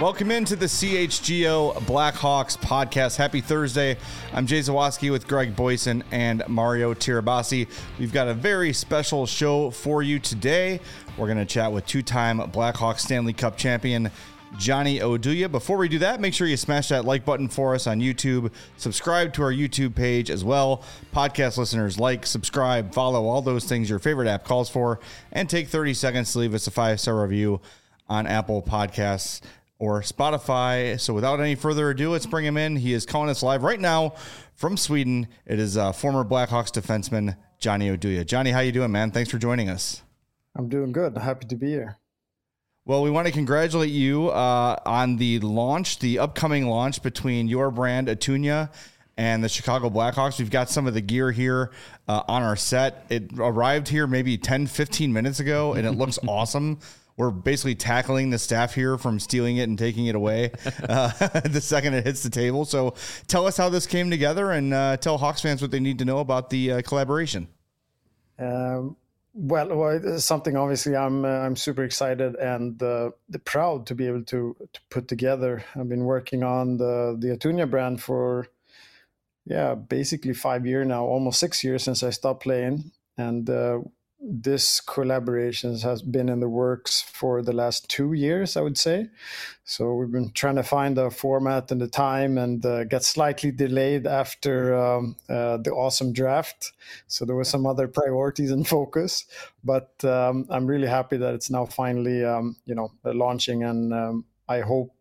Welcome into the CHGO Blackhawks podcast. Happy Thursday. I'm Jay Zawaski with Greg Boyson and Mario Tirabassi. We've got a very special show for you today. We're going to chat with two-time Blackhawks Stanley Cup champion Johnny Oduya. Before we do that, make sure you smash that like button for us on YouTube. Subscribe to our YouTube page as well. Podcast listeners, like, subscribe, follow, all those things your favorite app calls for, and take 30 seconds to leave us a 5-star review on Apple Podcasts or Spotify. So without any further ado, let's bring him in. He is calling us live right now from Sweden. It is former Blackhawks defenseman Johnny Oduya. Johnny, how you doing, man? Thanks for joining us. I'm doing good. Happy to be here. Well, we want to congratulate you on the launch, the upcoming launch between your brand, Atunya, and the Chicago Blackhawks. We've got some of the gear here on our set. It arrived here maybe 10, 15 minutes ago, and it looks awesome. We're basically tackling the staff here from stealing it and taking it away the second it hits the table. So tell us how this came together and tell Hawks fans what they need to know about the collaboration. Well, it's something obviously I'm super excited and proud to be able to put together. I've been working on the Atunya brand for, basically 5 years now, almost 6 years since I stopped playing. And this collaboration has been in the works for the last 2 years, I would say. So we've been trying to find the format and the time, and got slightly delayed after the awesome draft. So there were some other priorities and focus, but I'm really happy that it's now finally, launching, and I hope,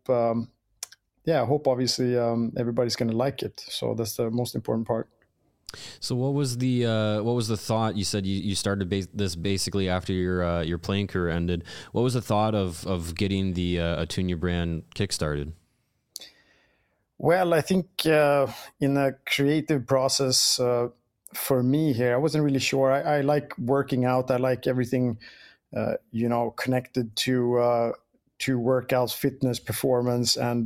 obviously everybody's going to like it. So that's the most important part. So what was the thought? You said you started this basically after your playing career ended. What was the thought of getting the Atunya brand kickstarted? Well, I think in a creative process for me here, I wasn't really sure. I like working out. I like everything connected to workouts, fitness, performance, and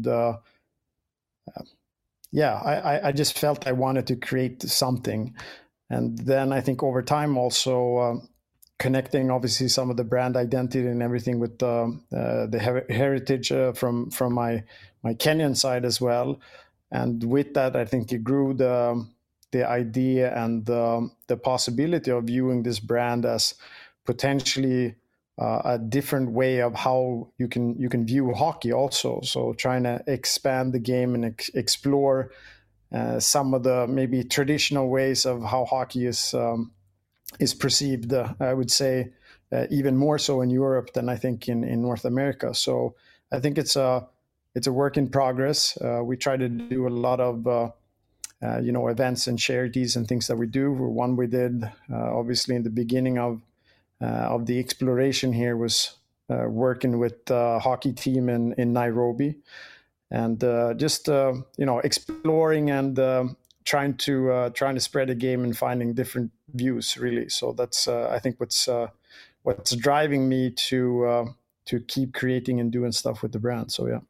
I just felt I wanted to create something. And then I think over time also connecting obviously some of the brand identity and everything with the heritage from my Kenyan side as well. And with that, I think it grew the idea and the possibility of viewing this brand as potentially a different way of how you can view hockey also. So trying to expand the game and explore some of the maybe traditional ways of how hockey is perceived. I would say even more so in Europe than I think in North America. So I think it's a work in progress. We try to do a lot of events and charities and things that we do. One we did obviously in the beginning of the exploration here was working with the hockey team in Nairobi, and just exploring and trying to spread the game and finding different views, really. So that's I think what's driving me to keep creating and doing stuff with the brand. So yeah.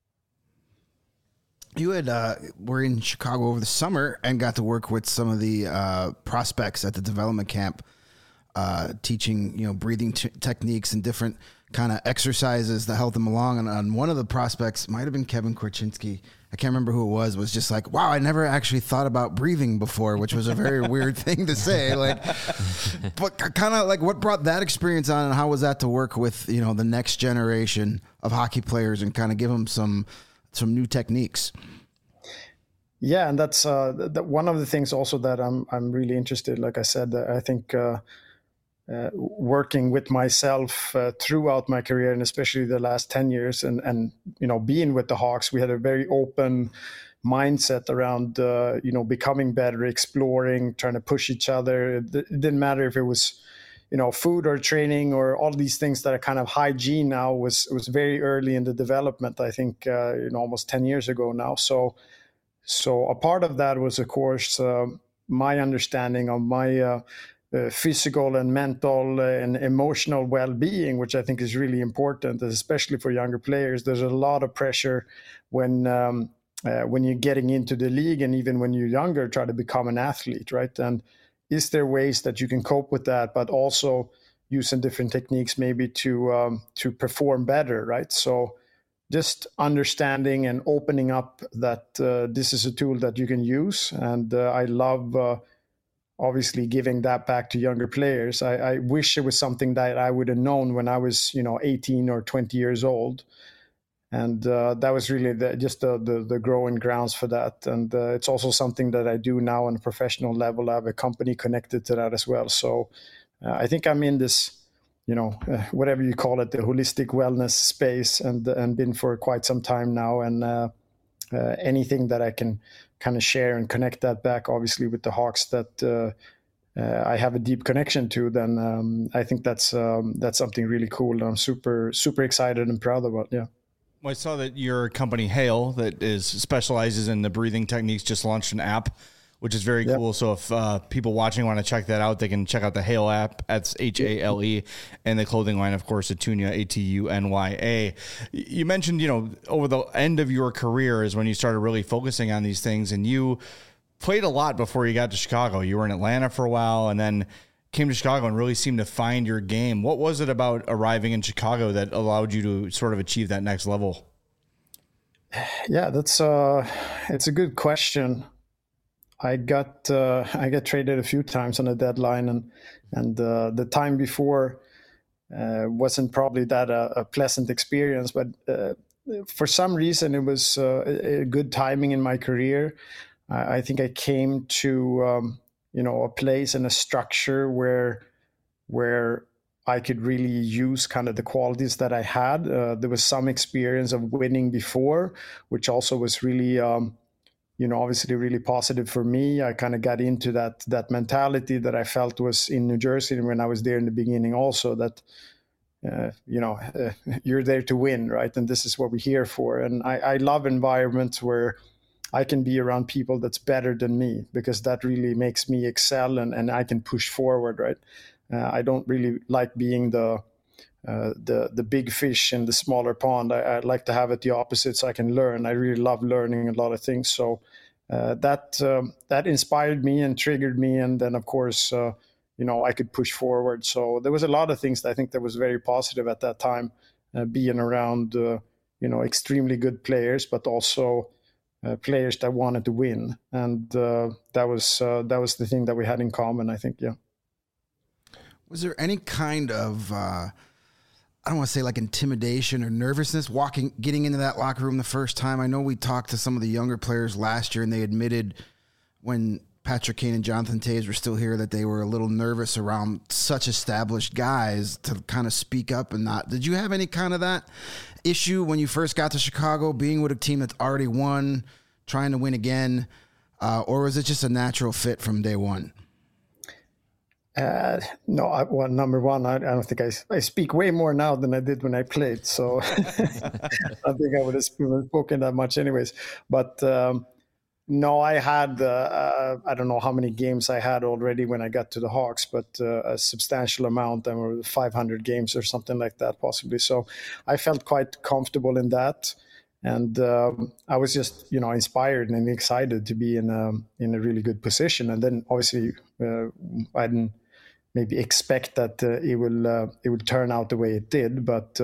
You were in Chicago over the summer and got to work with some of the prospects at the development camp. Teaching, breathing techniques and different kind of exercises that help them along. And on one of the prospects, might have been Kevin Korchinski, I can't remember who it was just like, wow, I never actually thought about breathing before, which was a very weird thing to say. But kind of what brought that experience on, and how was that to work with, the next generation of hockey players and kind of give them some new techniques? Yeah, and that's one of the things also that I'm really interested. Like I said, I think working with myself throughout my career, and especially the last 10 years, and being with the Hawks, we had a very open mindset around becoming better, exploring, trying to push each other. It didn't matter if it was food or training or all these things that are kind of hygiene now. Was very early in the development, I think almost 10 years ago now. So a part of that was, of course, my understanding of my physical and mental and emotional well-being, which I think is really important, especially for younger players. There's a lot of pressure when you're getting into the league, and even when you're younger, try to become an athlete, right? And is there ways that you can cope with that, but also using different techniques maybe to perform better, right? So just understanding and opening up that this is a tool that you can use. And I love obviously giving that back to younger players. I wish it was something that I would have known when I was 18 or 20 years old. And that was really the growing grounds for that. And it's also something that I do now on a professional level. I have a company connected to that as well. So I think I'm in this, whatever you call it, the holistic wellness space, and been for quite some time now. And anything that I can kind of share and connect that back, obviously, with the Hawks that I have a deep connection to, then I think that's something really cool. I'm super, super excited and proud about. Yeah. Well, I saw that your company Hale that specializes in the breathing techniques just launched an app, which is very cool. So if people watching want to check that out, they can check out the Hale app. That's HALE, and the clothing line, of course, Atunya, ATUNYA. You mentioned, over the end of your career is when you started really focusing on these things, and you played a lot before you got to Chicago. You were in Atlanta for a while, and then came to Chicago and really seemed to find your game. What was it about arriving in Chicago that allowed you to sort of achieve that next level? Yeah, it's a good question. I got traded a few times on the deadline, and the time before wasn't probably that a pleasant experience, but for some reason it was a good timing in my career. I think I came to a place and a structure where I could really use kind of the qualities that I had. There was some experience of winning before, which also was really, obviously really positive for me. I kind of got into that mentality that I felt was in New Jersey when I was there in the beginning also, that, you're there to win, right? And this is what we're here for. And I love environments where I can be around people that's better than me, because that really makes me excel and I can push forward, right? I don't really like being the big fish in the smaller pond. I like to have it the opposite, so I can learn. I really love learning a lot of things. So that inspired me and triggered me. And then, of course, I could push forward. So there was a lot of things that I think that was very positive at that time, being around, extremely good players, but also players that wanted to win, and that was the thing that we had in common, I think. Yeah. Was there any kind of I don't want to say like intimidation or nervousness getting into that locker room the first time? I know we talked to some of the younger players last year, and they admitted when Patrick Kane and Jonathan Toews were still here that they were a little nervous around such established guys to kind of speak up and not. Did you have any kind of that issue when you first got to Chicago, being with a team that's already won, trying to win again, or was it just a natural fit from day one? No, number one, I don't think I speak way more now than I did when I played. So I think I would have spoken that much anyways. But no, I had, I don't know how many games I had already when I got to the Hawks, but a substantial amount, and were 500 games or something like that, possibly. So I felt quite comfortable in that. And I was just, inspired and excited to be in a really good position. And then obviously I didn't maybe expect that it will turn out the way it did. But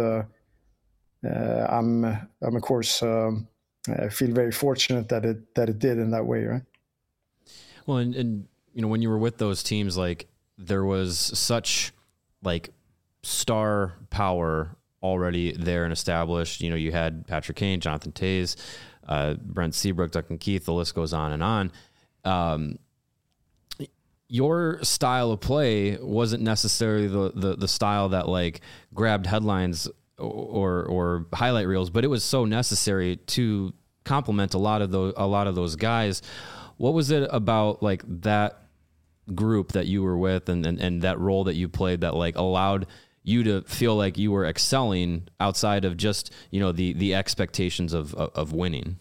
I'm of course, I feel very fortunate that it did in that way, right? Well, and when you were with those teams, like there was such like star power already there and established. You had Patrick Kane, Jonathan Toews, Brent Seabrook, Duncan Keith. The list goes on and on. Your style of play wasn't necessarily the style that like grabbed headlines or highlight reels, but it was so necessary to complement a lot of those guys. What was it about like that group that you were with and that role that you played that like allowed you to feel like you were excelling outside of just, the expectations of winning?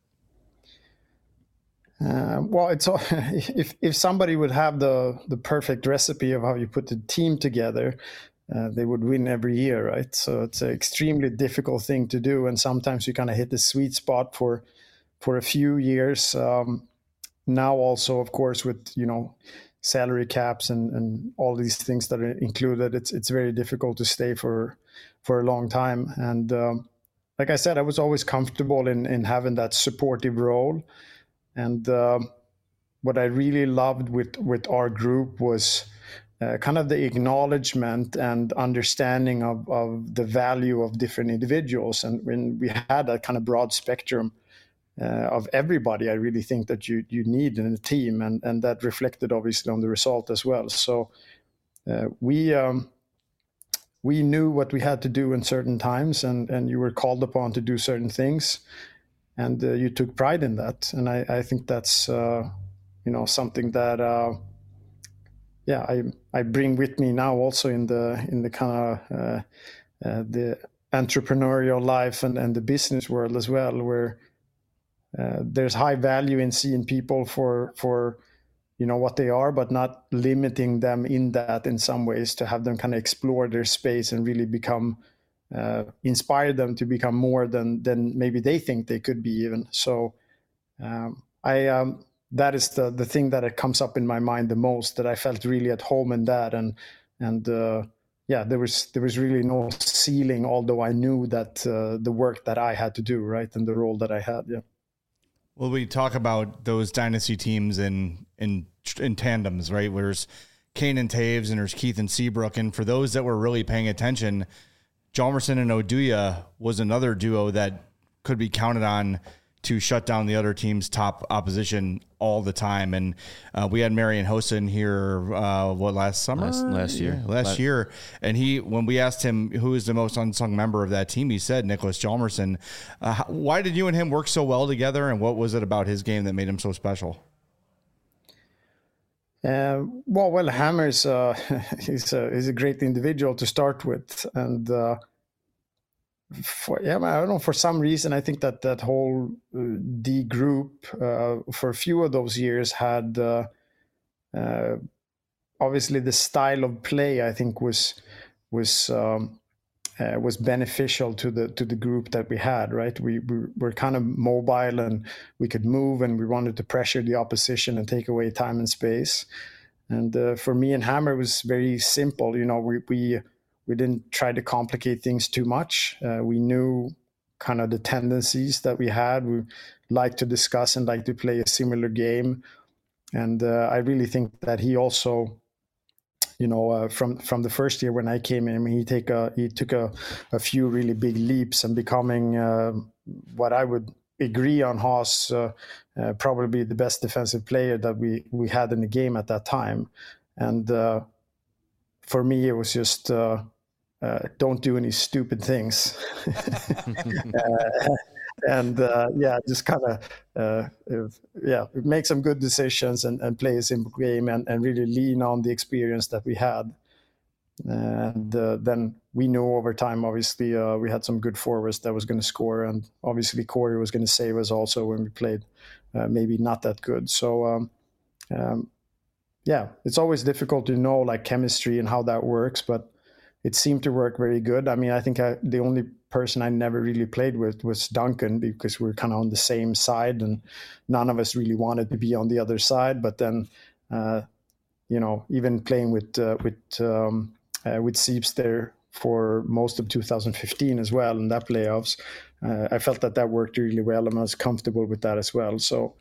Well, it's if somebody would have the perfect recipe of how you put the team together, they would win every year, right? So it's an extremely difficult thing to do, and sometimes you kind of hit the sweet spot for a few years. Now also, of course, with salary caps and all these things that are included, it's very difficult to stay for a long time. And like I said, I was always comfortable in having that supportive role. And what I really loved with our group was kind of the acknowledgement and understanding of the value of different individuals. And when we had that kind of broad spectrum of everybody, I really think that you need in a team, and that reflected obviously on the result as well. So we knew what we had to do in certain times, and you were called upon to do certain things, and you took pride in that. And I think that's something that I bring with me now also in the kind of the entrepreneurial life and the business world as well, where there's high value in seeing people for what they are, but not limiting them in that in some ways, to have them kind of explore their space and really become inspire them to become more than maybe they think they could be even. So that is the thing that it comes up in my mind the most, that I felt really at home in that. And there was really no ceiling, although I knew that the work that I had to do, right, and the role that I had. Yeah. Well, we talk about those dynasty teams in tandems, right? There's Kane and Taves, and there's Keith and Seabrook. And for those that were really paying attention, Hjalmarsson and Oduya was another duo that could be counted on to shut down the other team's top opposition all the time. And we had Marian Hossa in here, last summer? Last year. Yeah, last year. And when we asked him who is the most unsung member of that team, he said Niklas Hjalmarsson. Why did you and him work so well together, and what was it about his game that made him so special? Well, Hammers, he's a great individual to start with. And I don't know, for some reason, I think that whole D group for a few of those years had obviously the style of play, I think was beneficial to the group that we had, right? We were kind of mobile, and we could move, and we wanted to pressure the opposition and take away time and space. And for me and Hammer, it was very simple. We didn't try to complicate things too much. We knew kind of the tendencies that we had. We liked to discuss and like to play a similar game. And I really think that he also, from the first year when I came in, he took a few really big leaps and becoming what I would agree on Haas, probably the best defensive player that we had in the game at that time. And for me, it was just don't do any stupid things. Just kind of make some good decisions and play a simple game and really lean on the experience that we had. And then we knew over time, obviously, we had some good forwards that was going to score, and obviously Corey was going to save us also when we played maybe not that good. So it's always difficult to know like chemistry and how that works, but it seemed to work very good. I mean, I think the only person I never really played with was Duncan, because we were kind of on the same side, and none of us really wanted to be on the other side. But then, even playing with Seeps there for most of 2015 as well in that playoffs, I felt that worked really well, and I was comfortable with that as well. So,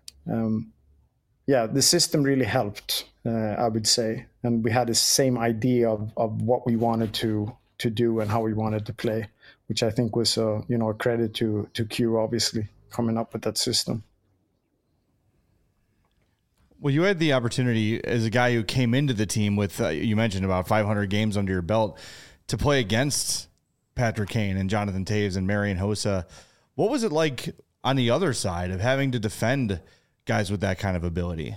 the system really helped, I would say. And we had the same idea of what we wanted to do and how we wanted to play, which I think was, a credit to Q, obviously, coming up with that system. Well, you had the opportunity as a guy who came into the team with, you mentioned about 500 games under your belt, to play against Patrick Kane and Jonathan Taves and Marian Hossa. What was it like on the other side of having to defend guys with that kind of ability?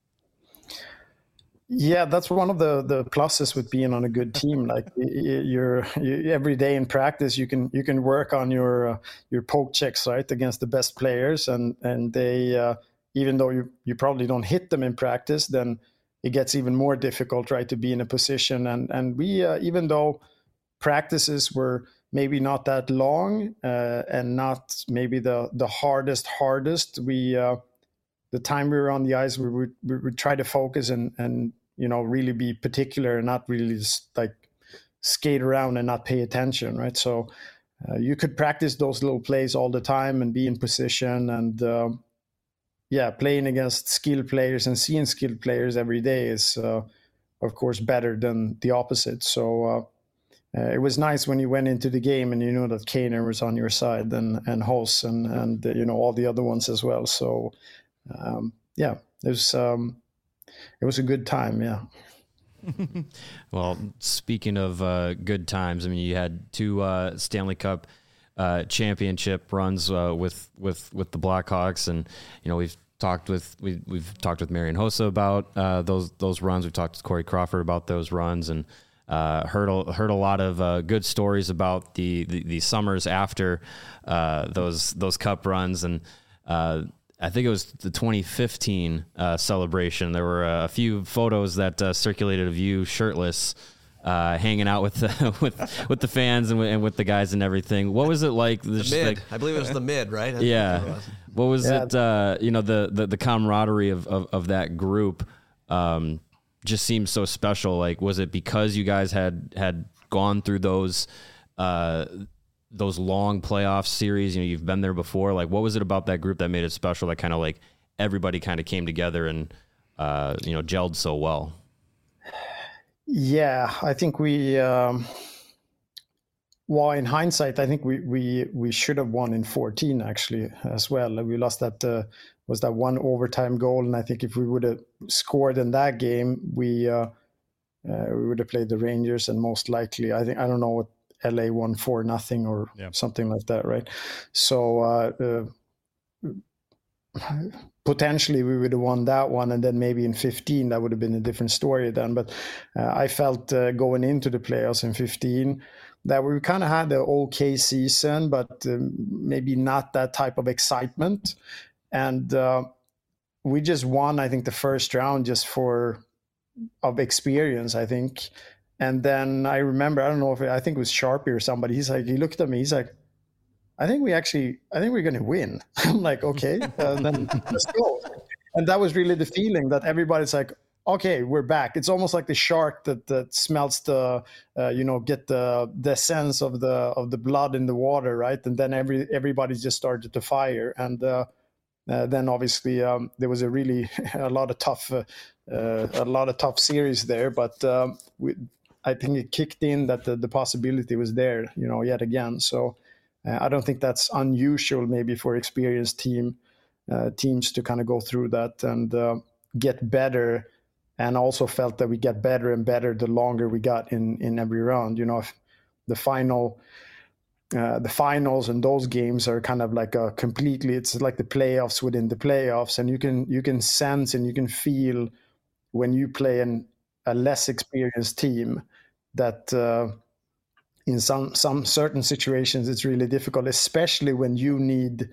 Yeah, that's one of the pluses with being on a good team. Like you're every day in practice, you can work on your poke checks, right, against the best players, and they even though you probably don't hit them in practice, then it gets even more difficult, right, to be in a position. And we even though practices were maybe not that long and not maybe the hardest, we the time we were on the ice, we would try to focus and really be particular and not really just like skate around and not pay attention, right? So you could practice those little plays all the time and be in position, and playing against skilled players and seeing skilled players every day is of course better than the opposite. So it was nice when you went into the game and you know that Kaner was on your side, and Hos and all the other ones as well. So it was a good time. Yeah. Well, speaking of good times, I mean, you had 2 Stanley Cup championship runs with the Blackhawks, and we've talked with Marian Hossa about those runs. We've talked to Corey Crawford about those runs, and heard a lot of good stories about the summers after those Cup runs, and I think it was the 2015 celebration. There were a few photos that circulated of you shirtless, hanging out with the fans and with the guys and everything. What was it like? The mid. I believe it was the mid, right? Yeah. What was it? The camaraderie of that group just seems so special. Like, was it because you guys had gone through those long playoff series? You've been there before. Like, what was it about that group that made it special? That kind of like everybody kind of came together and gelled so well. Yeah, I think we. Well, in hindsight, I think we should have won in 14 actually as well. We lost that was that one overtime goal, and I think if we would have scored in that game, we would have played the Rangers, and most likely, I don't know what. LA won 4-0 or something like that, right? So potentially we would have won that one, and then maybe in 15 that would have been a different story then. But I felt going into the playoffs in 15 that we kind of had an okay season, but maybe not that type of excitement. And we just won, I think, the first round just of experience, I think. And then I remember, I don't know I think it was Sharpie or somebody. He looked at me. He's like, I think we're going to win. I'm like, okay, then let's go. And that was really the feeling that everybody's like, okay, we're back. It's almost like the shark that smells get the sense of the blood in the water, right? And then everybody just started to fire. And then obviously there was a lot of tough series there, but I think it kicked in that the possibility was there, yet again. So I don't think that's unusual maybe for experienced teams to kind of go through that and get better. And also felt that we get better and better the longer we got in every round. If the finals and those games are kind of like it's like the playoffs within the playoffs, and you can sense and you can feel when you play a less experienced team that in some certain situations it's really difficult, especially when you need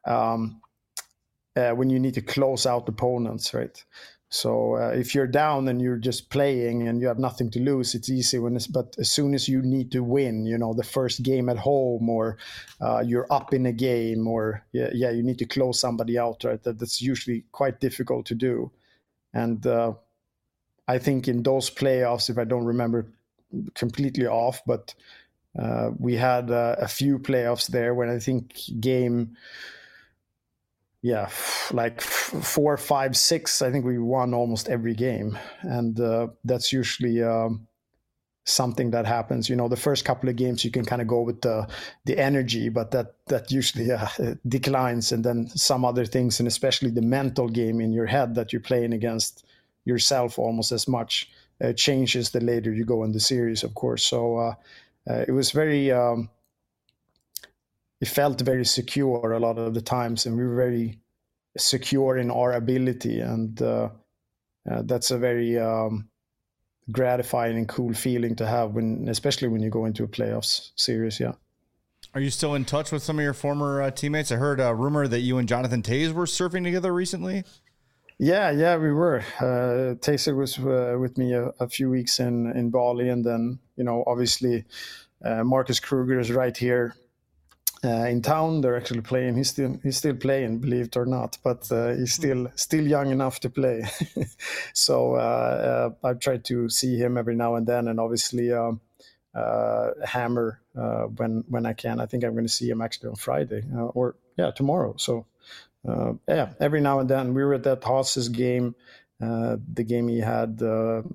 to close out opponents, right? So if you're down and you're just playing and you have nothing to lose, it's easy. But as soon as you need to win, the first game at home, or you're up in a game, or you need to close somebody out, right? That's usually quite difficult to do. And I think in those playoffs, if I don't remember completely off, but we had a few playoffs there when I think game 4, 5, 6, I think we won almost every game. And that's usually something that happens. The first couple of games you can kind of go with the energy, but that usually declines. And then some other things, and especially the mental game in your head that you're playing against yourself almost as much, changes the later you go in the series, of course. So it was very... it felt very secure a lot of the times, and we were very secure in our ability. And that's a very gratifying and cool feeling to have, especially when you go into a playoffs series. Yeah. Are you still in touch with some of your former teammates? I heard a rumor that you and Jonathan Toews were surfing together recently. Yeah, we were. Toews was with me a few weeks in Bali, and then obviously Marcus Kruger is right here in town. They're actually playing. He's still playing, believe it or not, but he's still young enough to play. So I've tried to see him every now and then, and obviously hammer when I can. I think I'm going to see him actually on Friday tomorrow. So every now and then. We were at that Haas's game, the game he had the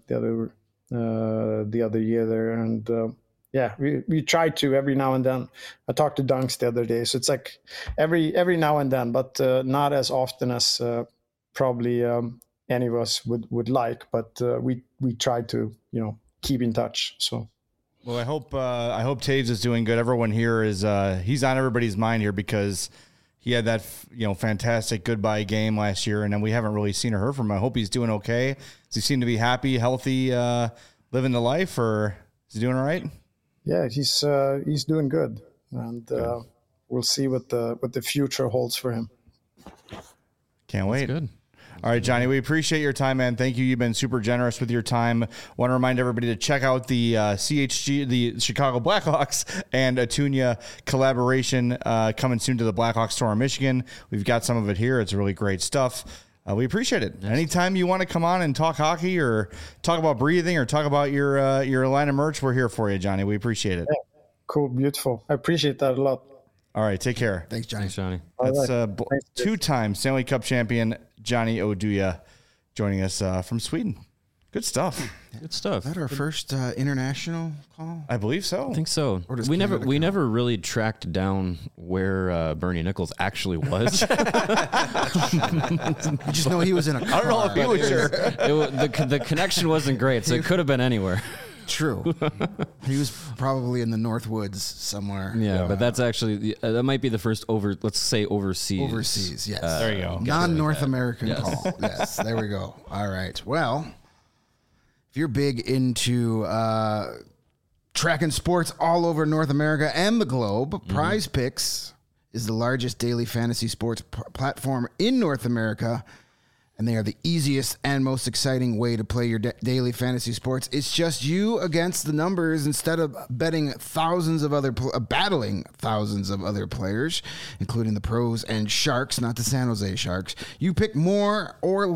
other year there, and we try to every now and then. I talked to Dunks the other day, so it's like every now and then, but not as often as probably any of us would like. But we try to keep in touch. So. Well, I hope Toews is doing good. Everyone here is he's on everybody's mind here because he had that fantastic goodbye game last year, and then we haven't really seen or heard from him. I hope he's doing okay. Does he seem to be happy, healthy, living the life, or is he doing all right? Yeah, he's doing good, and we'll see what the future holds for him. Can't wait. That's good. All right, Johnny, we appreciate your time, man. Thank you. You've been super generous with your time. Want to remind everybody to check out the CHG, the Chicago Blackhawks and Atunia collaboration coming soon to the Blackhawks store in Michigan. We've got some of it here. It's really great stuff. We appreciate it. Yes. Anytime you want to come on and talk hockey or talk about breathing or talk about your line of merch, we're here for you, Johnny. We appreciate it. Yeah. Cool. Beautiful. I appreciate that a lot. All right. Take care. Thanks, Johnny. That's two-time Stanley Cup champion Johnny Oduya joining us from Sweden. Good stuff. Good stuff. Is that our first international call? I believe so. I think so. We never really tracked down where Bernie Nichols actually was. You just know he was in a car. I don't know if he was sure. The connection wasn't great, so it could have been anywhere. True. He was probably in the North Woods somewhere. Yeah, but that's actually that might be the first overseas. Overseas, yes. There you go. Non-North American call. Yes, there we go. All right. Well, if you're big into tracking sports all over North America and the globe, Prize Picks is the largest daily fantasy sports platform in North America. And they are the easiest and most exciting way to play your daily fantasy sports. It's just you against the numbers instead of battling thousands of other players, including the pros and Sharks, not the San Jose Sharks. You pick more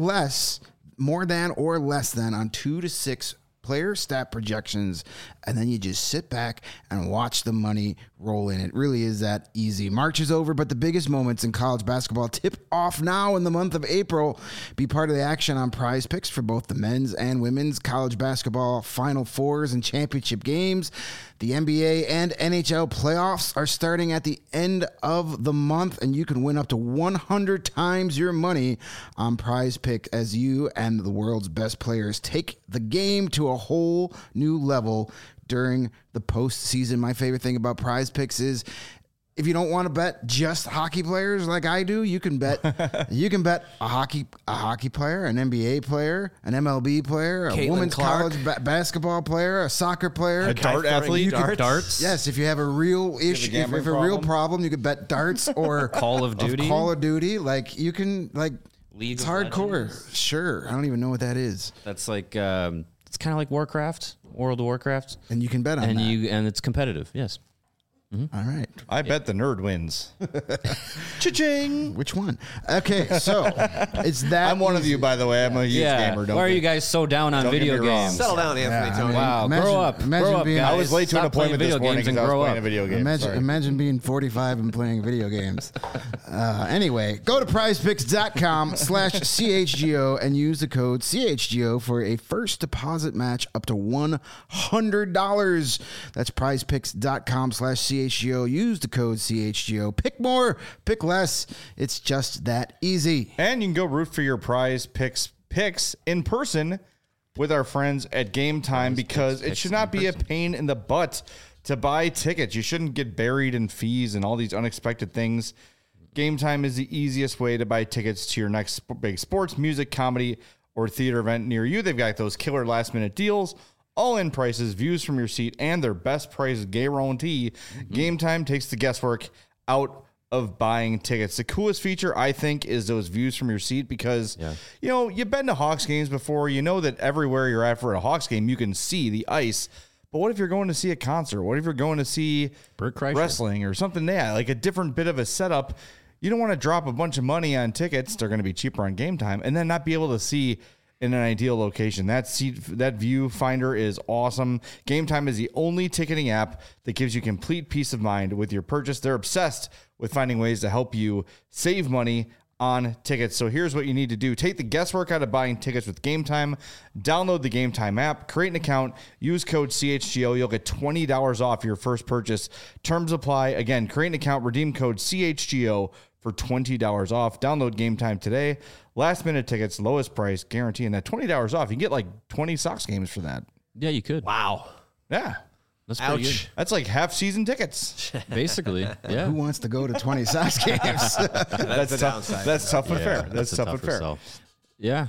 than or less than on 2 to 6 player stat projections, and then you just sit back and watch the money roll in. It really is that easy. March is over, but the biggest moments in college basketball tip off now in the month of April. Be part of the action on Prize Picks for both the men's and women's college basketball Final Fours and championship games. The NBA and NHL playoffs are starting at the end of the month, and you can win up to 100 times your money on Prize Pick as you and the world's best players take the game to a whole new level during the postseason. My favorite thing about Prize Picks is if you don't want to bet just hockey players like I do, you can bet a hockey player, an NBA player, an MLB player, a women's college basketball player, a soccer player, a dart athlete, darts. Yes, if you have a real issue, if you have a real problem, you could bet darts or Call of Duty. Like you can League it's of hardcore. Legends. Sure, I don't even know what that is. That's like it's kind of like World of Warcraft, and you can bet on that. And it's competitive. Yes. Mm-hmm. All right. I bet the nerd wins. Cha-ching! Which one? Okay, so it's that. I'm one of you, by the way. I'm a huge gamer. Why are you guys so down on video games? Settle down, Anthony. Tony. Wow, grow up, guys. I was late to an Stop playing appointment this morning and because I was grow playing up. a video game. Imagine being 45 and playing video games. Anyway, go to prizepicks.com/CHGO and use the code CHGO for a first deposit match up to $100. That's prizepicks.com/CHGO. Use the code CHGO. Pick more, pick less. It's just that easy. And you can go root for your Prize Picks in person with our friends at Game Time because it should not be a pain in the butt to buy tickets. You shouldn't get buried in fees and all these unexpected things. Game Time is the easiest way to buy tickets to your next big sports, music, comedy, or theater event near you. They've got those killer last-minute deals, all-in prices, views from your seat, and their best price guarantee. Game Time takes the guesswork out of buying tickets. The coolest feature, I think, is those views from your seat because, you've been to Hawks games before. You know that everywhere you're at for a Hawks game, you can see the ice. But what if you're going to see a concert? What if you're going to see wrestling or something? Yeah, like a different bit of a setup. You don't want to drop a bunch of money on tickets. They're going to be cheaper on Game Time and then not be able to see in an ideal location. That viewfinder is awesome. Game Time is the only ticketing app that gives you complete peace of mind with your purchase. They're obsessed with finding ways to help you save money on tickets. So here's what you need to do. Take the guesswork out of buying tickets with Game Time. Download the Game Time app, create an account, use code CHGO. You'll get $20 off your first purchase. Terms apply. Again, create an account, redeem code CHGO for $20 off. Download Game Time today. Last minute tickets, lowest price, guaranteeing that $20 off. You can get like 20 Sox games for that. Yeah, you could. Wow. Yeah. That's pretty good. That's like half season tickets. Basically, yeah. Who wants to go to 20 Sox games? That's the downside. That's tough but fair. That's That's a tough but tougher fair. sell. Yeah.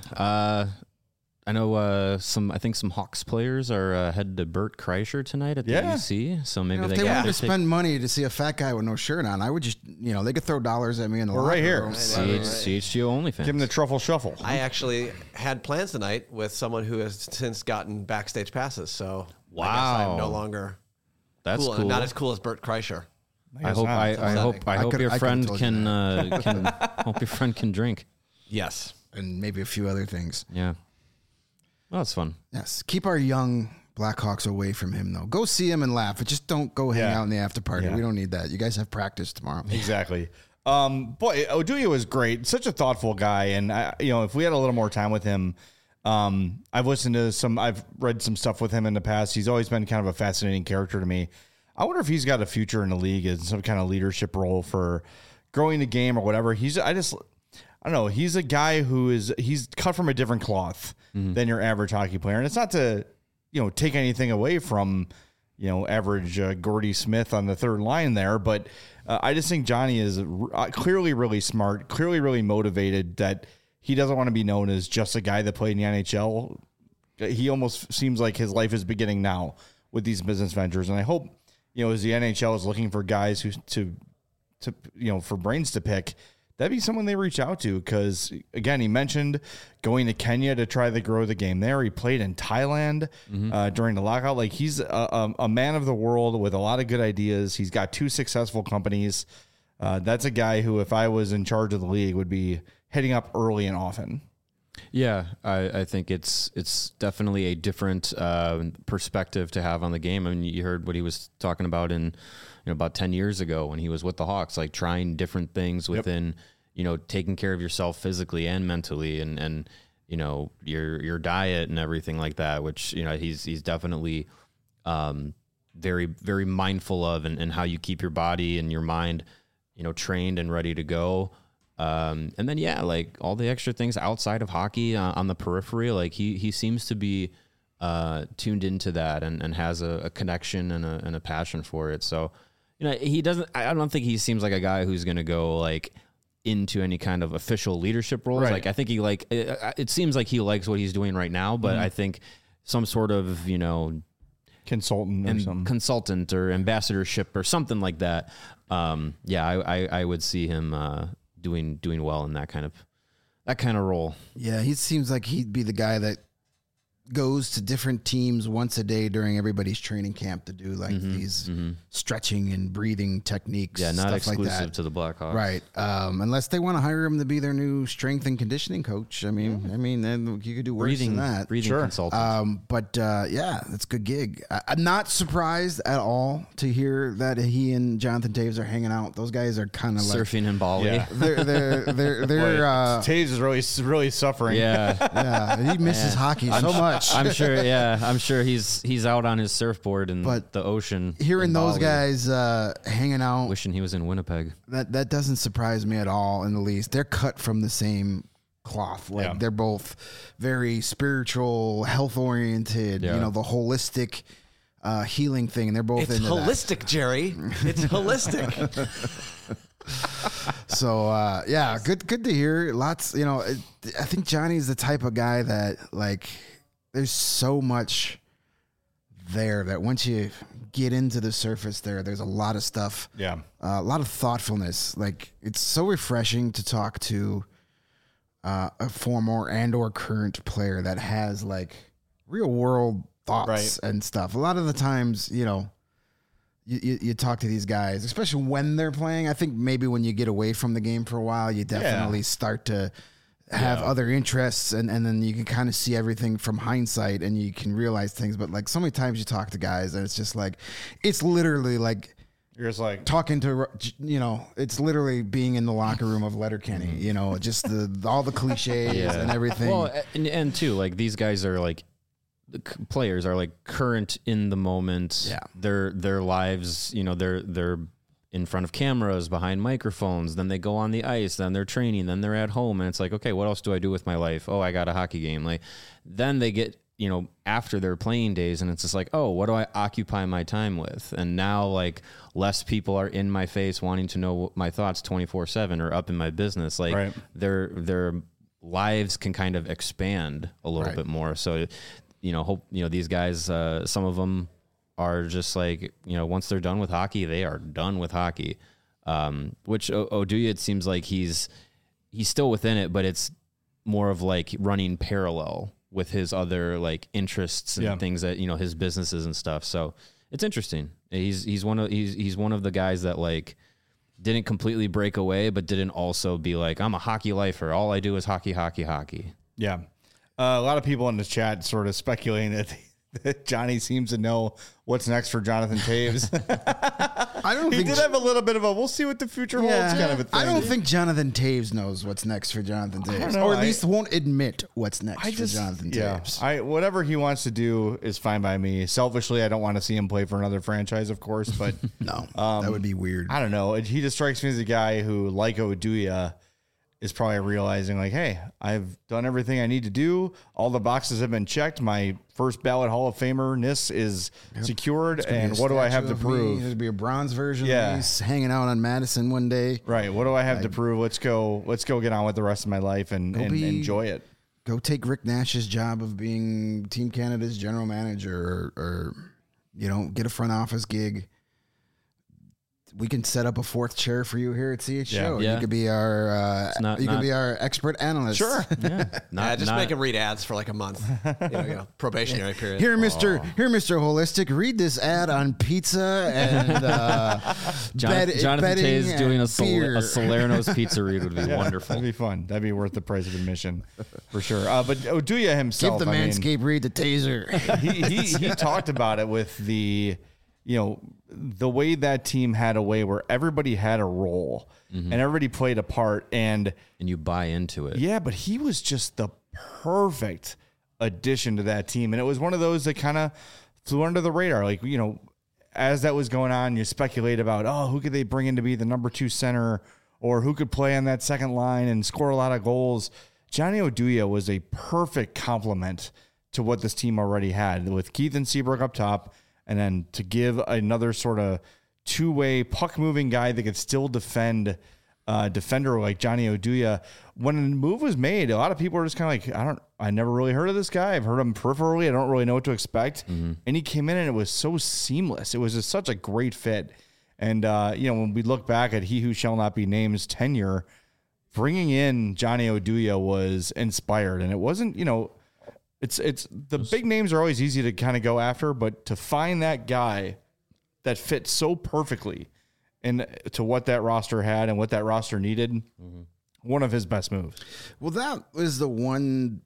I know I think some Hawks players are headed to Bert Kreischer tonight at the UC. So maybe If they they got wanted to spend money to see a fat guy with no shirt on, I would just, they could throw dollars at me in the locker right here. room. CHGO OnlyFans. Give him the truffle shuffle. I actually had plans tonight with someone who has since gotten backstage passes. So I guess Wow. I'm no longer That's cool. cool. Not as cool as Bert Kreischer. I hope I hope could- your I could've friend told you can hope your friend can drink. Yes. And maybe a few other things. Yeah. Well, that's fun. Yes. Keep our young Blackhawks away from him, though. Go see him and laugh, but just don't go hang Yeah. out in the after party. Yeah. We don't need that. You guys have practice tomorrow. Exactly. Boy, Oduya was great. Such a thoughtful guy. And, if we had a little more time with him, I've read some stuff with him in the past. He's always been kind of a fascinating character to me. I wonder if he's got a future in the league in some kind of leadership role for growing the game or whatever. I don't know. He's a guy he's cut from a different cloth than your average hockey player. And it's not to, take anything away from, average Gordy Smith on the third line there. But I just think Johnny is clearly really smart, clearly really motivated, that he doesn't want to be known as just a guy that played in the NHL. He almost seems like his life is beginning now with these business ventures. And I hope, as the NHL is looking for guys for brains to pick, that'd be someone they reach out to. Because again, he mentioned going to Kenya to try to grow the game there. He played in Thailand during the lockout. Like, he's a man of the world with a lot of good ideas. He's got 2 successful companies. That's a guy who, if I was in charge of the league, would be hitting up early and often. Yeah, I think it's definitely a different perspective to have on the game. I mean, you heard what he was talking about in about 10 years ago when he was with the Hawks, like trying different things within taking care of yourself physically and mentally, and your diet and everything like that. Which he's definitely very, very mindful of, and how you keep your body and your mind trained and ready to go. And then, like all the extra things outside of hockey on the periphery, like he seems to be tuned into that and has a connection and a passion for it. So, he doesn't, I don't think he seems like a guy who's going to go like into any kind of official leadership roles. Right. Like, I think it seems like he likes what he's doing right now, but I think some sort of, Consultant or something. consultant or ambassadorship or something like that. I would see him, doing well in that kind of role. Yeah, he seems like he'd be the guy that goes to different teams once a day during everybody's training camp to do like these stretching and breathing techniques. Yeah, not stuff exclusive like that. to the Blackhawks. Right. Unless they want to hire him to be their new strength and conditioning coach. I mean, then you could do worse than that. Breathing consultant. That's a good gig. I'm not surprised at all to hear that he and Jonathan Toews are hanging out. Those guys are kind of like Surfing in Bali. Yeah. they're Taves is really suffering. Yeah. he misses hockey so much. I'm sure he's out on his surfboard in the ocean. Hearing in those Bali, guys hanging out, wishing he was in Winnipeg. that doesn't surprise me at all in the least. They're cut from the same cloth. Like they're both very spiritual, health oriented. Yeah. The holistic healing thing. And they're both It's into holistic, Jerry. It's holistic. So good to hear. Lots. I think Johnny's the type of guy that like. There's so much there that once you get into the surface there's a lot of stuff. Yeah. A lot of thoughtfulness. Like, it's so refreshing to talk to a former and or current player that has like real world thoughts and stuff. A lot of the times, you talk to these guys, especially when they're playing. I think maybe when you get away from the game for a while, you definitely start to have other interests, and then you can kind of see everything from hindsight, and you can realize things. But like so many times you talk to guys, and it's just like, it's literally like You're just like, talking to, it's literally being in the locker room of Letterkenny, just all the cliches and everything. Well, and too, like these guys are like, the players are like current in the moment. Yeah. Their lives, they're in front of cameras, behind microphones, then they go on the ice, then they're training, then they're at home, and it's like, okay, what else do I do with my life? Oh, I got a hockey game. Like, then they get, after their playing days, and it's just like, oh, what do I occupy my time with? And now, like, less people are in my face wanting to know my thoughts 24/7 or up in my business. Like, Right. their lives can kind of expand a little bit more. So, these guys, some of them are just like, once they're done with hockey, they are done with hockey. Which Oduya, it seems like he's still within it, but it's more of like running parallel with his other like interests and things that, his businesses and stuff. So it's interesting. He's one of the guys that like didn't completely break away, but didn't also be like, I'm a hockey lifer. All I do is hockey. yeah. A lot of people in the chat sort of speculating that Johnny seems to know what's next for Jonathan Taves. I don't He think did have a little bit of a, we'll see what the future holds kind of a thing. I don't think Jonathan Taves knows what's next for Jonathan Taves, know. or at least won't admit what's next for Jonathan Taves. Whatever he wants to do is fine by me. Selfishly, I don't want to see him play for another franchise, of course, but No, that would be weird. I don't know. He just strikes me as a guy who, like Oduya, is probably realizing like, hey, I've done everything I need to do. All the boxes have been checked. My first ballot Hall of Famer-ness is secured. And what do I have to prove? There'd be a bronze version Yeah. of me hanging out on Madison one day. Right. What do I have to prove? Let's go get on with the rest of my life and enjoy it. Go take Rick Nash's job of being Team Canada's general manager, or get a front office gig. We can set up a fourth chair for you here at CHO. Yeah. You could be our could be our expert analyst. Sure. Just make him read ads for like a month. Probationary period. Here, Mr. Holistic, read this ad on pizza and Jonathan betting Taves and doing a beer. Salerno's pizza read would be wonderful. That'd be fun. That'd be worth the price of admission for sure. But Oduya himself, Give the Manscaped read the taser. he talked about it with the way that team had a way where everybody had a role and everybody played a part, and you buy into it. Yeah, but he was just the perfect addition to that team. And it was one of those that kind of flew under the radar. Like, as that was going on, you speculate about, who could they bring in to be the number 2 center, or who could play on that second line and score a lot of goals. Johnny Oduya was a perfect complement to what this team already had, with Keith and Seabrook up top, and then to give another sort of two-way puck-moving guy that could still defend defender like Johnny Oduya. When the move was made, a lot of people were just kind of like, I never really heard of this guy. I've heard him peripherally. I don't really know what to expect. And he came in and it was so seamless. It was just such a great fit. And, when we look back at He Who Shall Not Be Named's tenure, bringing in Johnny Oduya was inspired. And it wasn't, it's the big names are always easy to kind of go after, but to find that guy that fit so perfectly to what that roster had and what that roster needed, one of his best moves. Well, that was the one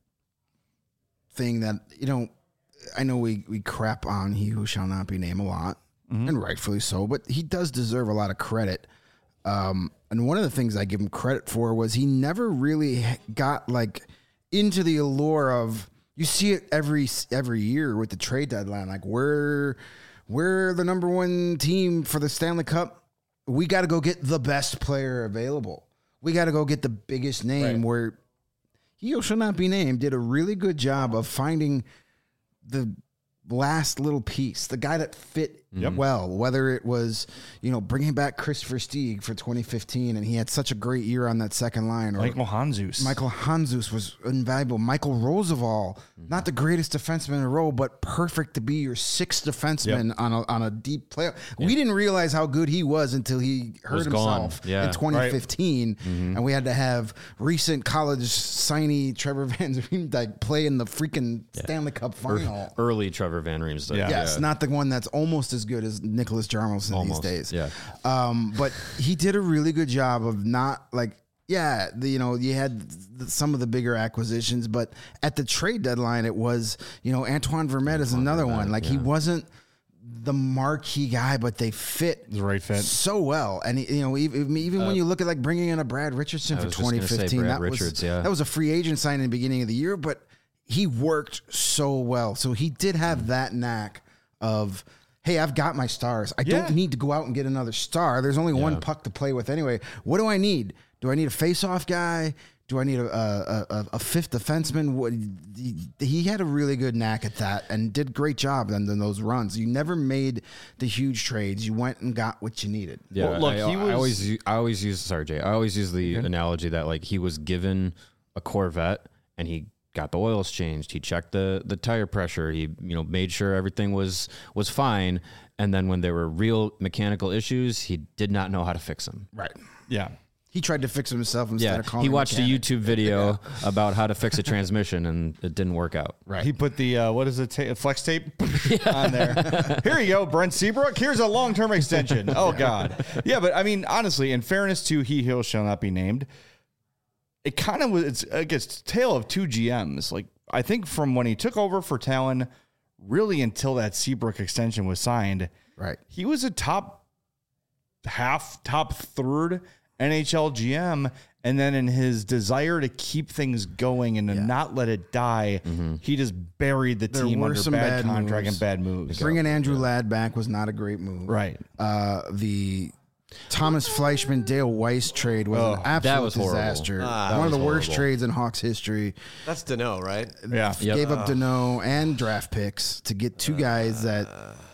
thing that, I know we crap on He Who Shall Not Be Named a lot, and rightfully so, but he does deserve a lot of credit. And one of the things I give him credit for was he never really got into the allure of, you see it every year with the trade deadline. Like, we're the number 1 team for the Stanley Cup. We got to go get the best player available. We got to go get the biggest name. Right. Where He Who Shall Not Be Named did a really good job of finding the last little piece, the guy that fit well, whether it was, bringing back Christopher Stieg for 2015, and he had such a great year on that second line. Or Michael Hanzus was invaluable. Michael Roosevelt, not the greatest defenseman in a row, but perfect to be your 6th defenseman on a deep playoff. We didn't realize how good he was until he hurt himself in 2015, and we had to have recent college signee Trevor Van Riemsdyk play in the freaking Stanley Cup final. Early Trevor Van Riemsdyk. Yes, not the one that's almost as good as Nicholas Jarmelson these days. Yeah. But he did a really good job of not Yeah, you had some of the bigger acquisitions, but at the trade deadline, it was, Antoine Vermette is another one. Like, he wasn't the marquee guy, but they fit The right fit. so well. And, even when you look at like bringing in a Brad Richardson for was just gonna say 2015, Brad that Richards, yeah. that was a free agent signing in the beginning of the year, but he worked so well. So he did have that knack of, hey, I've got my stars. I don't need to go out and get another star. There's only one puck to play with anyway. What do I need? Do I need a face-off guy? Do I need a fifth defenseman? He had a really good knack at that and did a great job in those runs. You never made the huge trades. You went and got what you needed. Yeah, Well, look, I always use sorry, Jay. I always use the analogy that like he was given a Corvette and he got the oils changed. He checked the tire pressure. He made sure everything was fine. And then when there were real mechanical issues, he did not know how to fix them. Right. Yeah. He tried to fix himself instead of calling he watched a mechanic. YouTube video about how to fix a transmission, and it didn't work out. Right. He put the flex tape on there. Here you go, Brent Seabrook. Here's a long-term extension. Oh God. Yeah, but I mean, honestly, in fairness to he shall not be named, it kind of was. It's I guess tale of two GMs. Like I think from when he took over for Talon, really until that Seabrook extension was signed, Right. he was a top third NHL GM, and then in his desire to keep things going and to not let it die, he just buried the team were under some bad bad contract moves. and bad moves. Bringing Andrew Ladd back was not a great move. Right. The Thomas Fleischman Dale Weiss trade was an absolute that was horrible. disaster. That One of was the worst horrible. trades in Hawks history. That's Deneau, right? Yeah. Yep. Gave up Deneau and draft picks to get two guys that,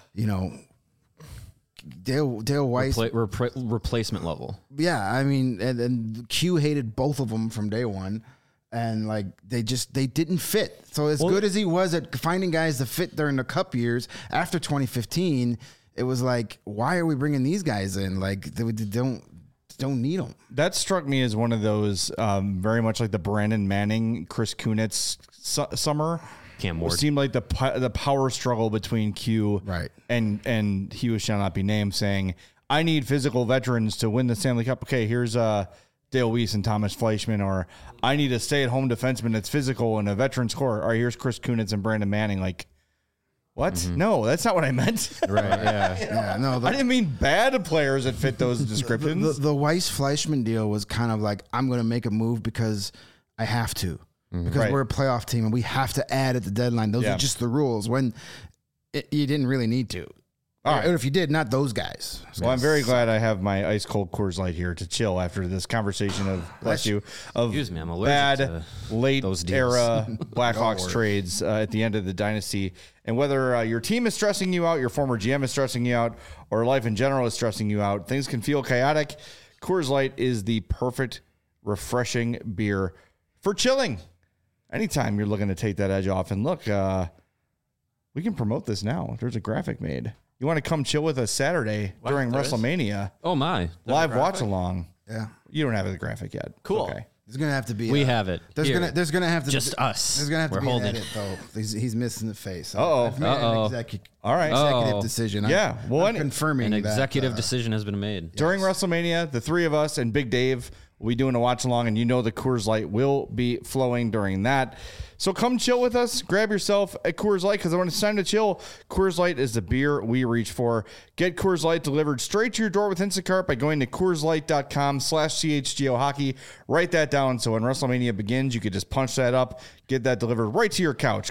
Dale Weiss. Replacement level. Yeah, I mean, and Q hated both of them from day one. And like they didn't fit. So as good as he was at finding guys to fit during the Cup years after 2015, it was like, why are we bringing these guys in? Like they don't need them. That struck me as one of those very much like the Brandon Manning, Chris Kunitz summer. Cam It Ward. seemed like the power struggle between Q Right. and he who shall not be named, saying, I need physical veterans to win the Stanley Cup. Okay, here's Dale Weiss and Thomas Fleischman. Or I need a stay-at-home defenseman that's physical and a veteran scorer. All right, here's Chris Kunitz and Brandon Manning. Like, what? No, that's not what I meant. Right. Yeah. Yeah, no, I didn't mean bad players that fit those descriptions. the Weiss Fleischman deal was kind of like, I'm going to make a move because I have to. Because Right. we're a playoff team and we have to add at the deadline. Those Yeah. are just the rules. When you didn't really need to. All right. Or if you did, not those guys. Well, I'm very glad I have my ice cold Coors Light here to chill after this conversation of bless you of Excuse me, I'm allergic bad to late those deals. era Blackhawks trades at the end of the dynasty, and whether your team is stressing you out, your former GM is stressing you out, or life in general is stressing you out, things can feel chaotic. Coors Light is the perfect, refreshing beer for chilling. Anytime you're looking to take that edge off, and look, we can promote this now. There's a graphic made. You want to come chill with us Saturday during there is? WrestleMania? Oh my. Live watch along. Yeah. You don't have the graphic yet. Cool. Okay. There's gonna have to be. We have it. There's Here. gonna have to Just us. There's gonna have to We're be holding an edit though. He's missing the face. Uh-oh. I've made an Uh-oh. All right. executive Oh. decision. Yeah. Well, I'm confirming An that, executive decision has been made. During WrestleMania, the three of us and Big Dave will be doing a watch along, and you know the Coors Light will be flowing during that. So come chill with us. Grab yourself a Coors Light, because when it's time to chill, Coors Light is the beer we reach for. Get Coors Light delivered straight to your door with Instacart by going to CoorsLight.com/CHGO Hockey. Write that down so when WrestleMania begins, you could just punch that up, get that delivered right to your couch.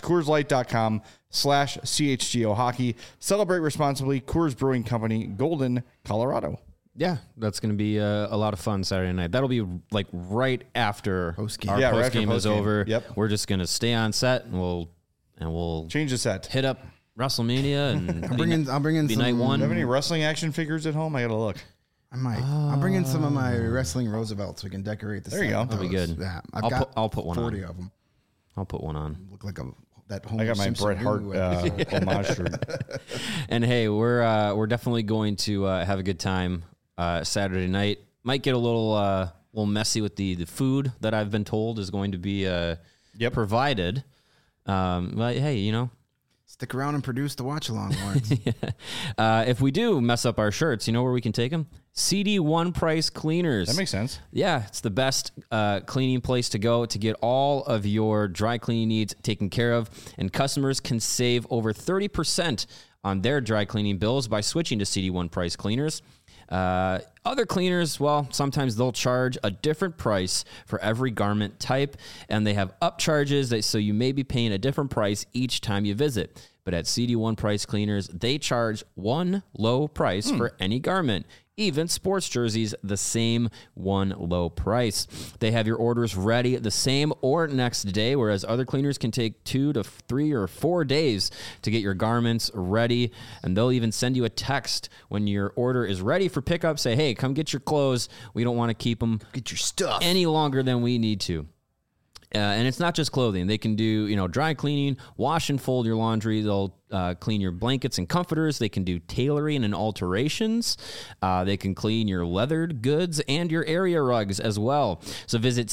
CoorsLight.com/CHGO Hockey. Celebrate responsibly. Coors Brewing Company, Golden, Colorado. Yeah, that's going to be a lot of fun Saturday night. That'll be like right after Post-game. our Yeah, right post after game is post-game. over. Yep. We're just going to stay on set and we'll Change the set. hit up WrestleMania and I'll bring in be some. night one. Do you have any wrestling action figures at home? I gotta look. I might. I'll bring in some of my wrestling Roosevelts. We can decorate the. There you set go. with That'll be those. good. Yeah, I'll put one 40 on. of them. I'll put one on. Look like that. I Homer got my Simpson Bret Hart Lou homage shirt. And hey, we're definitely going to have a good time Saturday night. Might get a little messy with the food that I've been told is going to be provided. But hey, Stick around and produce the watch along, Lawrence. If we do mess up our shirts, you know where we can take them? CD One Price Cleaners. That makes sense. Yeah, it's the best cleaning place to go to get all of your dry cleaning needs taken care of. And customers can save over 30% on their dry cleaning bills by switching to CD One Price Cleaners. Other cleaners, well, sometimes they'll charge a different price for every garment type, and they have upcharges, so you may be paying a different price each time you visit. But at CD One Price Cleaners, they charge one low price for any garment. Even sports jerseys, the same one low price. They have your orders ready the same or next day, whereas other cleaners can take 2 to 3 or 4 days to get your garments ready. And they'll even send you a text when your order is ready for pickup. Say, hey, come get your clothes. We don't want to keep them Get your stuff. any longer than we need to. And it's not just clothing. They can do, dry cleaning, wash and fold your laundry. They'll clean your blankets and comforters. They can do tailoring and alterations. They can clean your leathered goods and your area rugs as well. So visit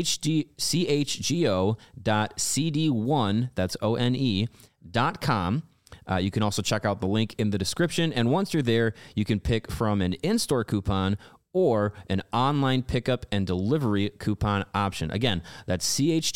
chgo.cd1, that's ONE.com. You can also check out the link in the description. And once you're there, you can pick from an in-store coupon or an online pickup and delivery coupon option. Again, that's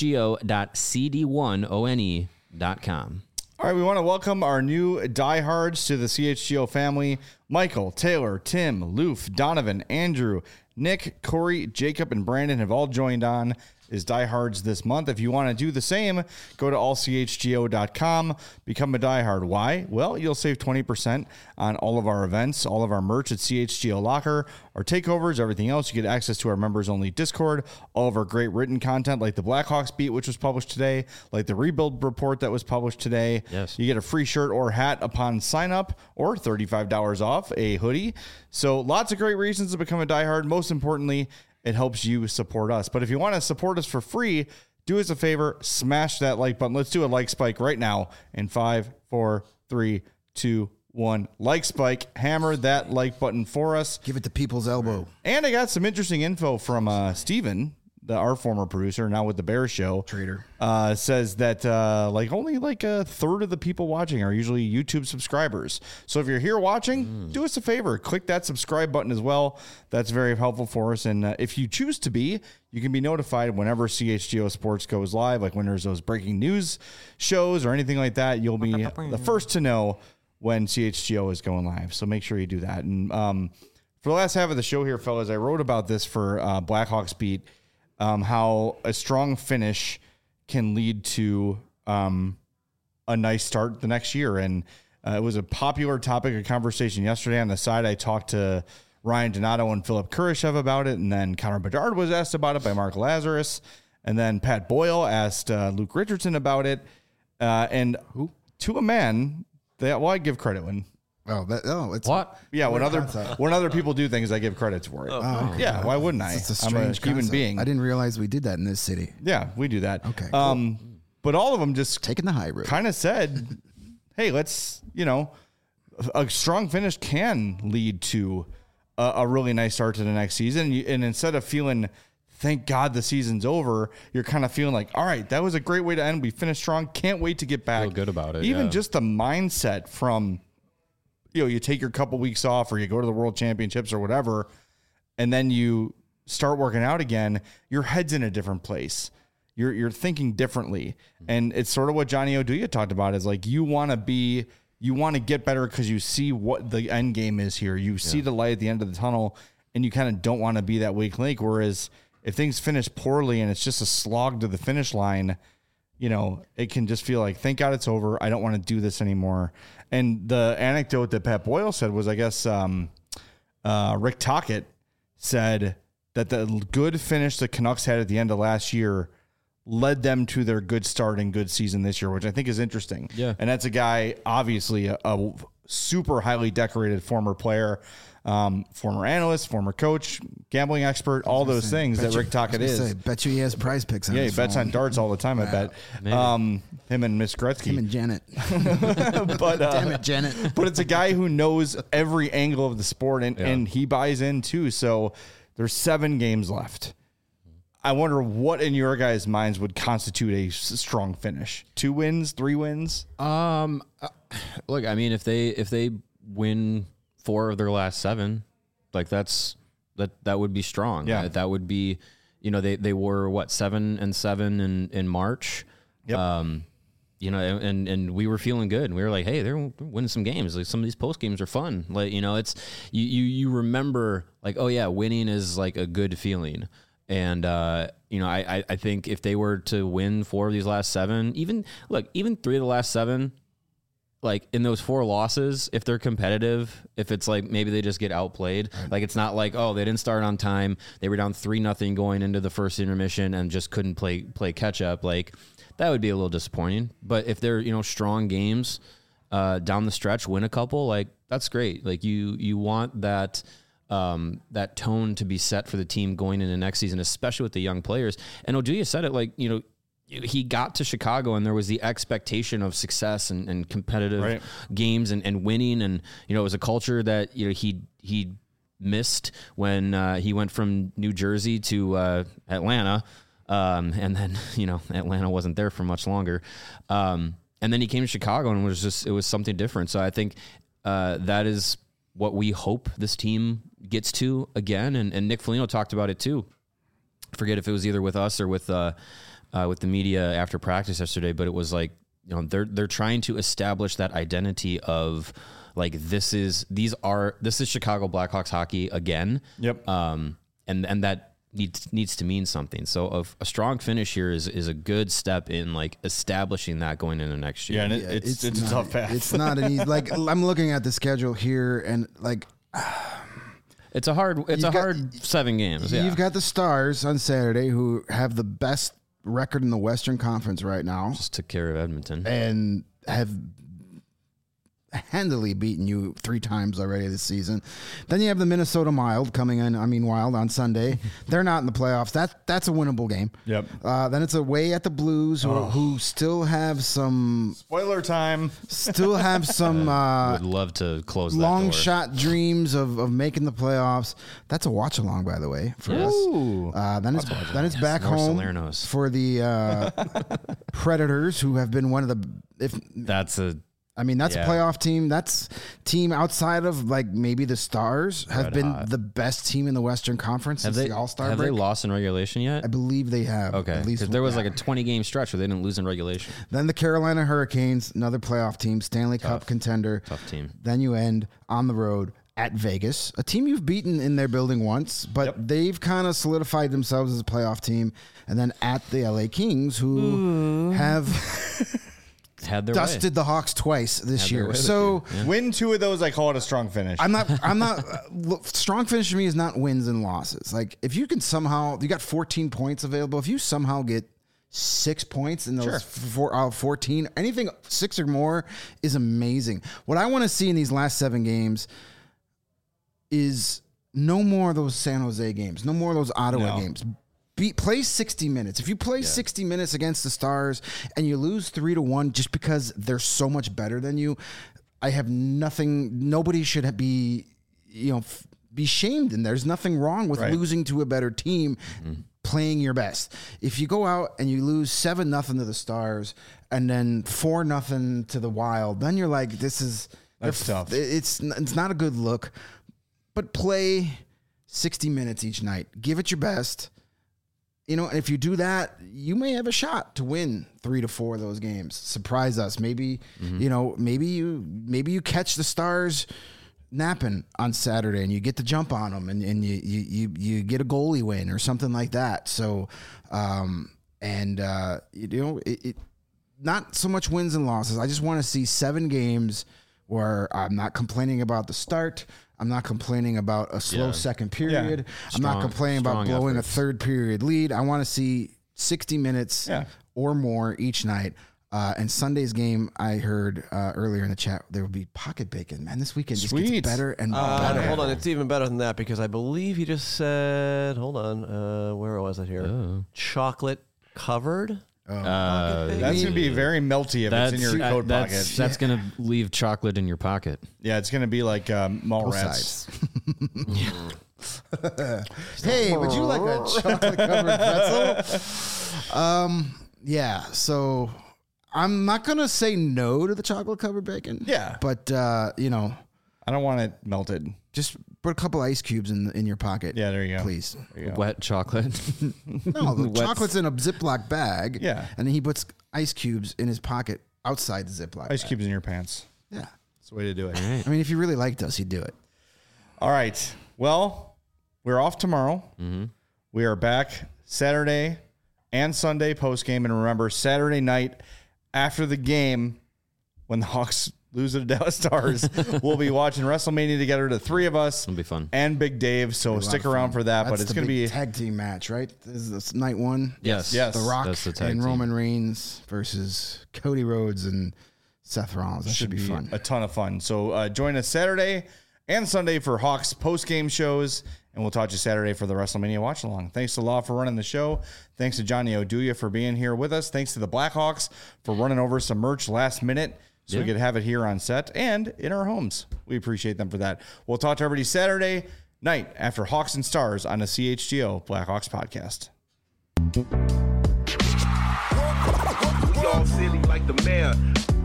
chgo.cd1one.com. All right, we want to welcome our new diehards to the CHGO family. Michael, Taylor, Tim, Loof, Donovan, Andrew, Nick, Corey, Jacob, and Brandon have all joined on as diehards this month. If you want to do the same, go to allchgo.com, become a diehard. Why? Well, you'll save 20% on all of our events, all of our merch at CHGO Locker, our takeovers, everything else. You get access to our members-only Discord, all of our great written content like the Blackhawks beat, which was published today, like the rebuild report that was published today. Yes. You get a free shirt or hat upon sign up, or $35 off a hoodie. So lots of great reasons to become a diehard. Most importantly, it helps you support us. But if you want to support us for free, do us a favor, smash that like button. Let's do a like spike right now in 5, 4, 3, 2, 1. Like spike. Hammer that like button for us. Give it the people's elbow. And I got some interesting info from Steven, our former producer, now with the Bear Show. Trader. Says that only a third of the people watching are usually YouTube subscribers. So if you're here watching, do us a favor. Click that subscribe button as well. That's very helpful for us. And if you choose to be, you can be notified whenever CHGO Sports goes live, like when there's those breaking news shows or anything like that. You'll be the first to know when CHGO is going live. So make sure you do that. And for the last half of the show here, fellas, I wrote about this for Blackhawks Beat. How a strong finish can lead to a nice start the next year. And it was a popular topic of conversation yesterday. On the side, I talked to Ryan Donato and Philip Kurashev about it. And then Connor Bedard was asked about it by Mark Lazarus. And then Pat Boyle asked Luke Richardson about it. And to a man, I give credit when... It's What? Yeah, when other people do things, I give credit for it. okay. Yeah, why wouldn't I? It's a I'm a strange human concept. being. I didn't realize we did that in this city. Yeah, we do that. Okay, cool. But all of them just Taking the high road. kind of said, hey, let's, a strong finish can lead to a really nice start to the next season. And instead of feeling, thank God the season's over, you're kind of feeling like, all right, that was a great way to end. We finished strong. Can't wait to get back. Feel good about it, Even yeah. just the mindset from, you take your couple weeks off or you go to the World Championships or whatever, and then you start working out again, your head's in a different place. You're thinking differently. And it's sort of what Johnny Oduya talked about is like, you want to get better because you see what the end game is here. You see the light at the end of the tunnel and you kind of don't want to be that weak link. Whereas if things finish poorly and it's just a slog to the finish line, it can just feel like, thank God it's over. I don't want to do this anymore. And the anecdote that Pat Boyle said was, I guess, Rick Tocchet said that the good finish the Canucks had at the end of last year led them to their good start and good season this year, which I think is interesting. Yeah. And that's a guy, obviously, a super highly decorated former player, former analyst, former coach, gambling expert, all those things that Rick Tocchet is. Bet you he has prize picks on Yeah, he his bets phone. on darts all the time, I bet. Him and Miss Gretzky. Him and Janet. But, Damn it, Janet. but it's a guy who knows every angle of the sport, and he buys in too. So there's 7 games left. I wonder what in your guys' minds would constitute a strong finish. 2 wins, 3 wins? Look, I mean, if they win 4 of their last 7, like that would be strong. Yeah. That would be, they were what, 7-7 in March. Yep. And we were feeling good, and we were like, hey, they're winning some games. Like, some of these post games are fun. Like, it's you remember, like, oh yeah, winning is like a good feeling. And I think if they were to win 4 of these last 7, even 3 of the last 7, like in those 4 losses, if they're competitive, if it's like maybe they just get outplayed, like it's not like, oh, they didn't start on time, they were down 3-0 going into the first intermission and just couldn't play catch up, like that would be a little disappointing. But if they're strong games down the stretch, win a couple, like that's great. Like you want that that tone to be set for the team going into next season, especially with the young players. And Oduya said it, like he got to Chicago and there was the expectation of success and competitive games and winning. And, it was a culture that, he missed when he went from New Jersey to Atlanta. And then, Atlanta wasn't there for much longer. And then he came to Chicago and it was something different. So I think that is what we hope this team gets to again. And Nick Foligno talked about it too. I forget if it was either with us or with the media after practice yesterday, but it was like, they're trying to establish that identity of like, this is Chicago Blackhawks hockey again. Yep. And that needs to mean something. So a strong finish here is a good step in like establishing that going into next year. Yeah, and it's a tough path. It's not an easy, like I'm looking at the schedule here and like, it's a hard 7 games. Yeah. You've got the Stars on Saturday, who have the best record in the Western Conference right now. Just took care of Edmonton. And have handily beaten you 3 times already this season. Then you have the Minnesota Wild coming in. Wild on Sunday. They're not in the playoffs. That's a winnable game. Yep. Then it's away at the Blues, who still have some spoiler time. Still have some would love to close that long door. shot dreams of making the playoffs. That's a watch along, by the way, for us. Then it's back North home Salernos. for the Predators, who have been one of the that's a playoff team. That's team outside of like maybe the Stars have been the best team in the Western Conference since the All-Star break. Have they lost in regulation yet? I believe they have. Okay, because there was like a 20-game stretch where they didn't lose in regulation. Then the Carolina Hurricanes, another playoff team, Stanley Cup contender. Tough team. Then you end on the road at Vegas, a team you've beaten in their building once, but they've kind of solidified themselves as a playoff team. And then at the LA Kings, who have had their dusted the Hawks twice this year. So win 2 of those, I call it a strong finish. I'm not strong finish to me is not wins and losses. Like if you can somehow, you got 14 points available. If you somehow get 6 points in those 14, anything 6 or more is amazing. What I want to see in these last 7 games is no more of those San Jose games, no more of those Ottawa games. Play 60 minutes. If you play 60 minutes against the Stars and you lose 3-1 just because they're so much better than you, I have nothing. Nobody should be, be shamed. And there's nothing wrong with losing to a better team, playing your best. If you go out and you lose 7-0 to the Stars and then 4-0 to the Wild, then you're like, that's tough. It's not a good look. But play 60 minutes each night. Give it your best. And if you do that, you may have a shot to win 3 to 4 of those games. Surprise us. Maybe, maybe you catch the Stars napping on Saturday and you get the jump on them and you get a goalie win or something like that. So, not so much wins and losses. I just want to see 7 games where I'm not complaining about the start. I'm not complaining about a slow second period. I'm not complaining about blowing a third period lead. I want to see 60 minutes or more each night. And Sunday's game, I heard earlier in the chat, there will be pocket bacon. Man, this weekend just gets better and better. Hold on, it's even better than that because I believe he just said, hold on, where was it here? Oh. Chocolate covered. That's going to be very melty if it's in your coat pocket. That's going to leave chocolate in your pocket. Yeah, it's going to be like Mallrats. Hey, would you like a chocolate covered pretzel? Yeah. So I'm not gonna say no to the chocolate covered bacon. Yeah. But you know, I don't want it melted. just put a couple ice cubes in your pocket. Yeah, there you go. Please. There you go. Wet chocolate. No, the Wet- chocolate's in a Ziploc bag. Yeah. And then he puts ice cubes in his pocket outside the Ziploc Ice bag. cubes in your pants. Yeah. That's the way to do it. I mean, if you really liked us, you'd do it. All right. Well, we're off tomorrow. We are back Saturday and Sunday post game. And remember, Saturday night after the game, when the Hawks lose to the Dallas Stars, we'll be watching WrestleMania together, the three of us. It'll be fun. And Big Dave. So stick around for that. That's But it's the going to big be tag team match, right? This is night one. Yes. Yes. The Rock That's the tag and team. Roman Reigns versus Cody Rhodes and Seth Rollins. That should be fun. a ton of fun. So join us Saturday and Sunday for Hawks post-game shows, and we'll talk to you Saturday for the WrestleMania watch-along. Thanks to Law for running the show. Thanks to Johnny Oduya for being here with us. Thanks to the Blackhawks for running over some merch last minute so we could have it here on set and in our homes. We appreciate them for that. We'll talk to everybody Saturday night after Hawks and Stars on the CHGO Blackhawks podcast. We all silly like the mayor.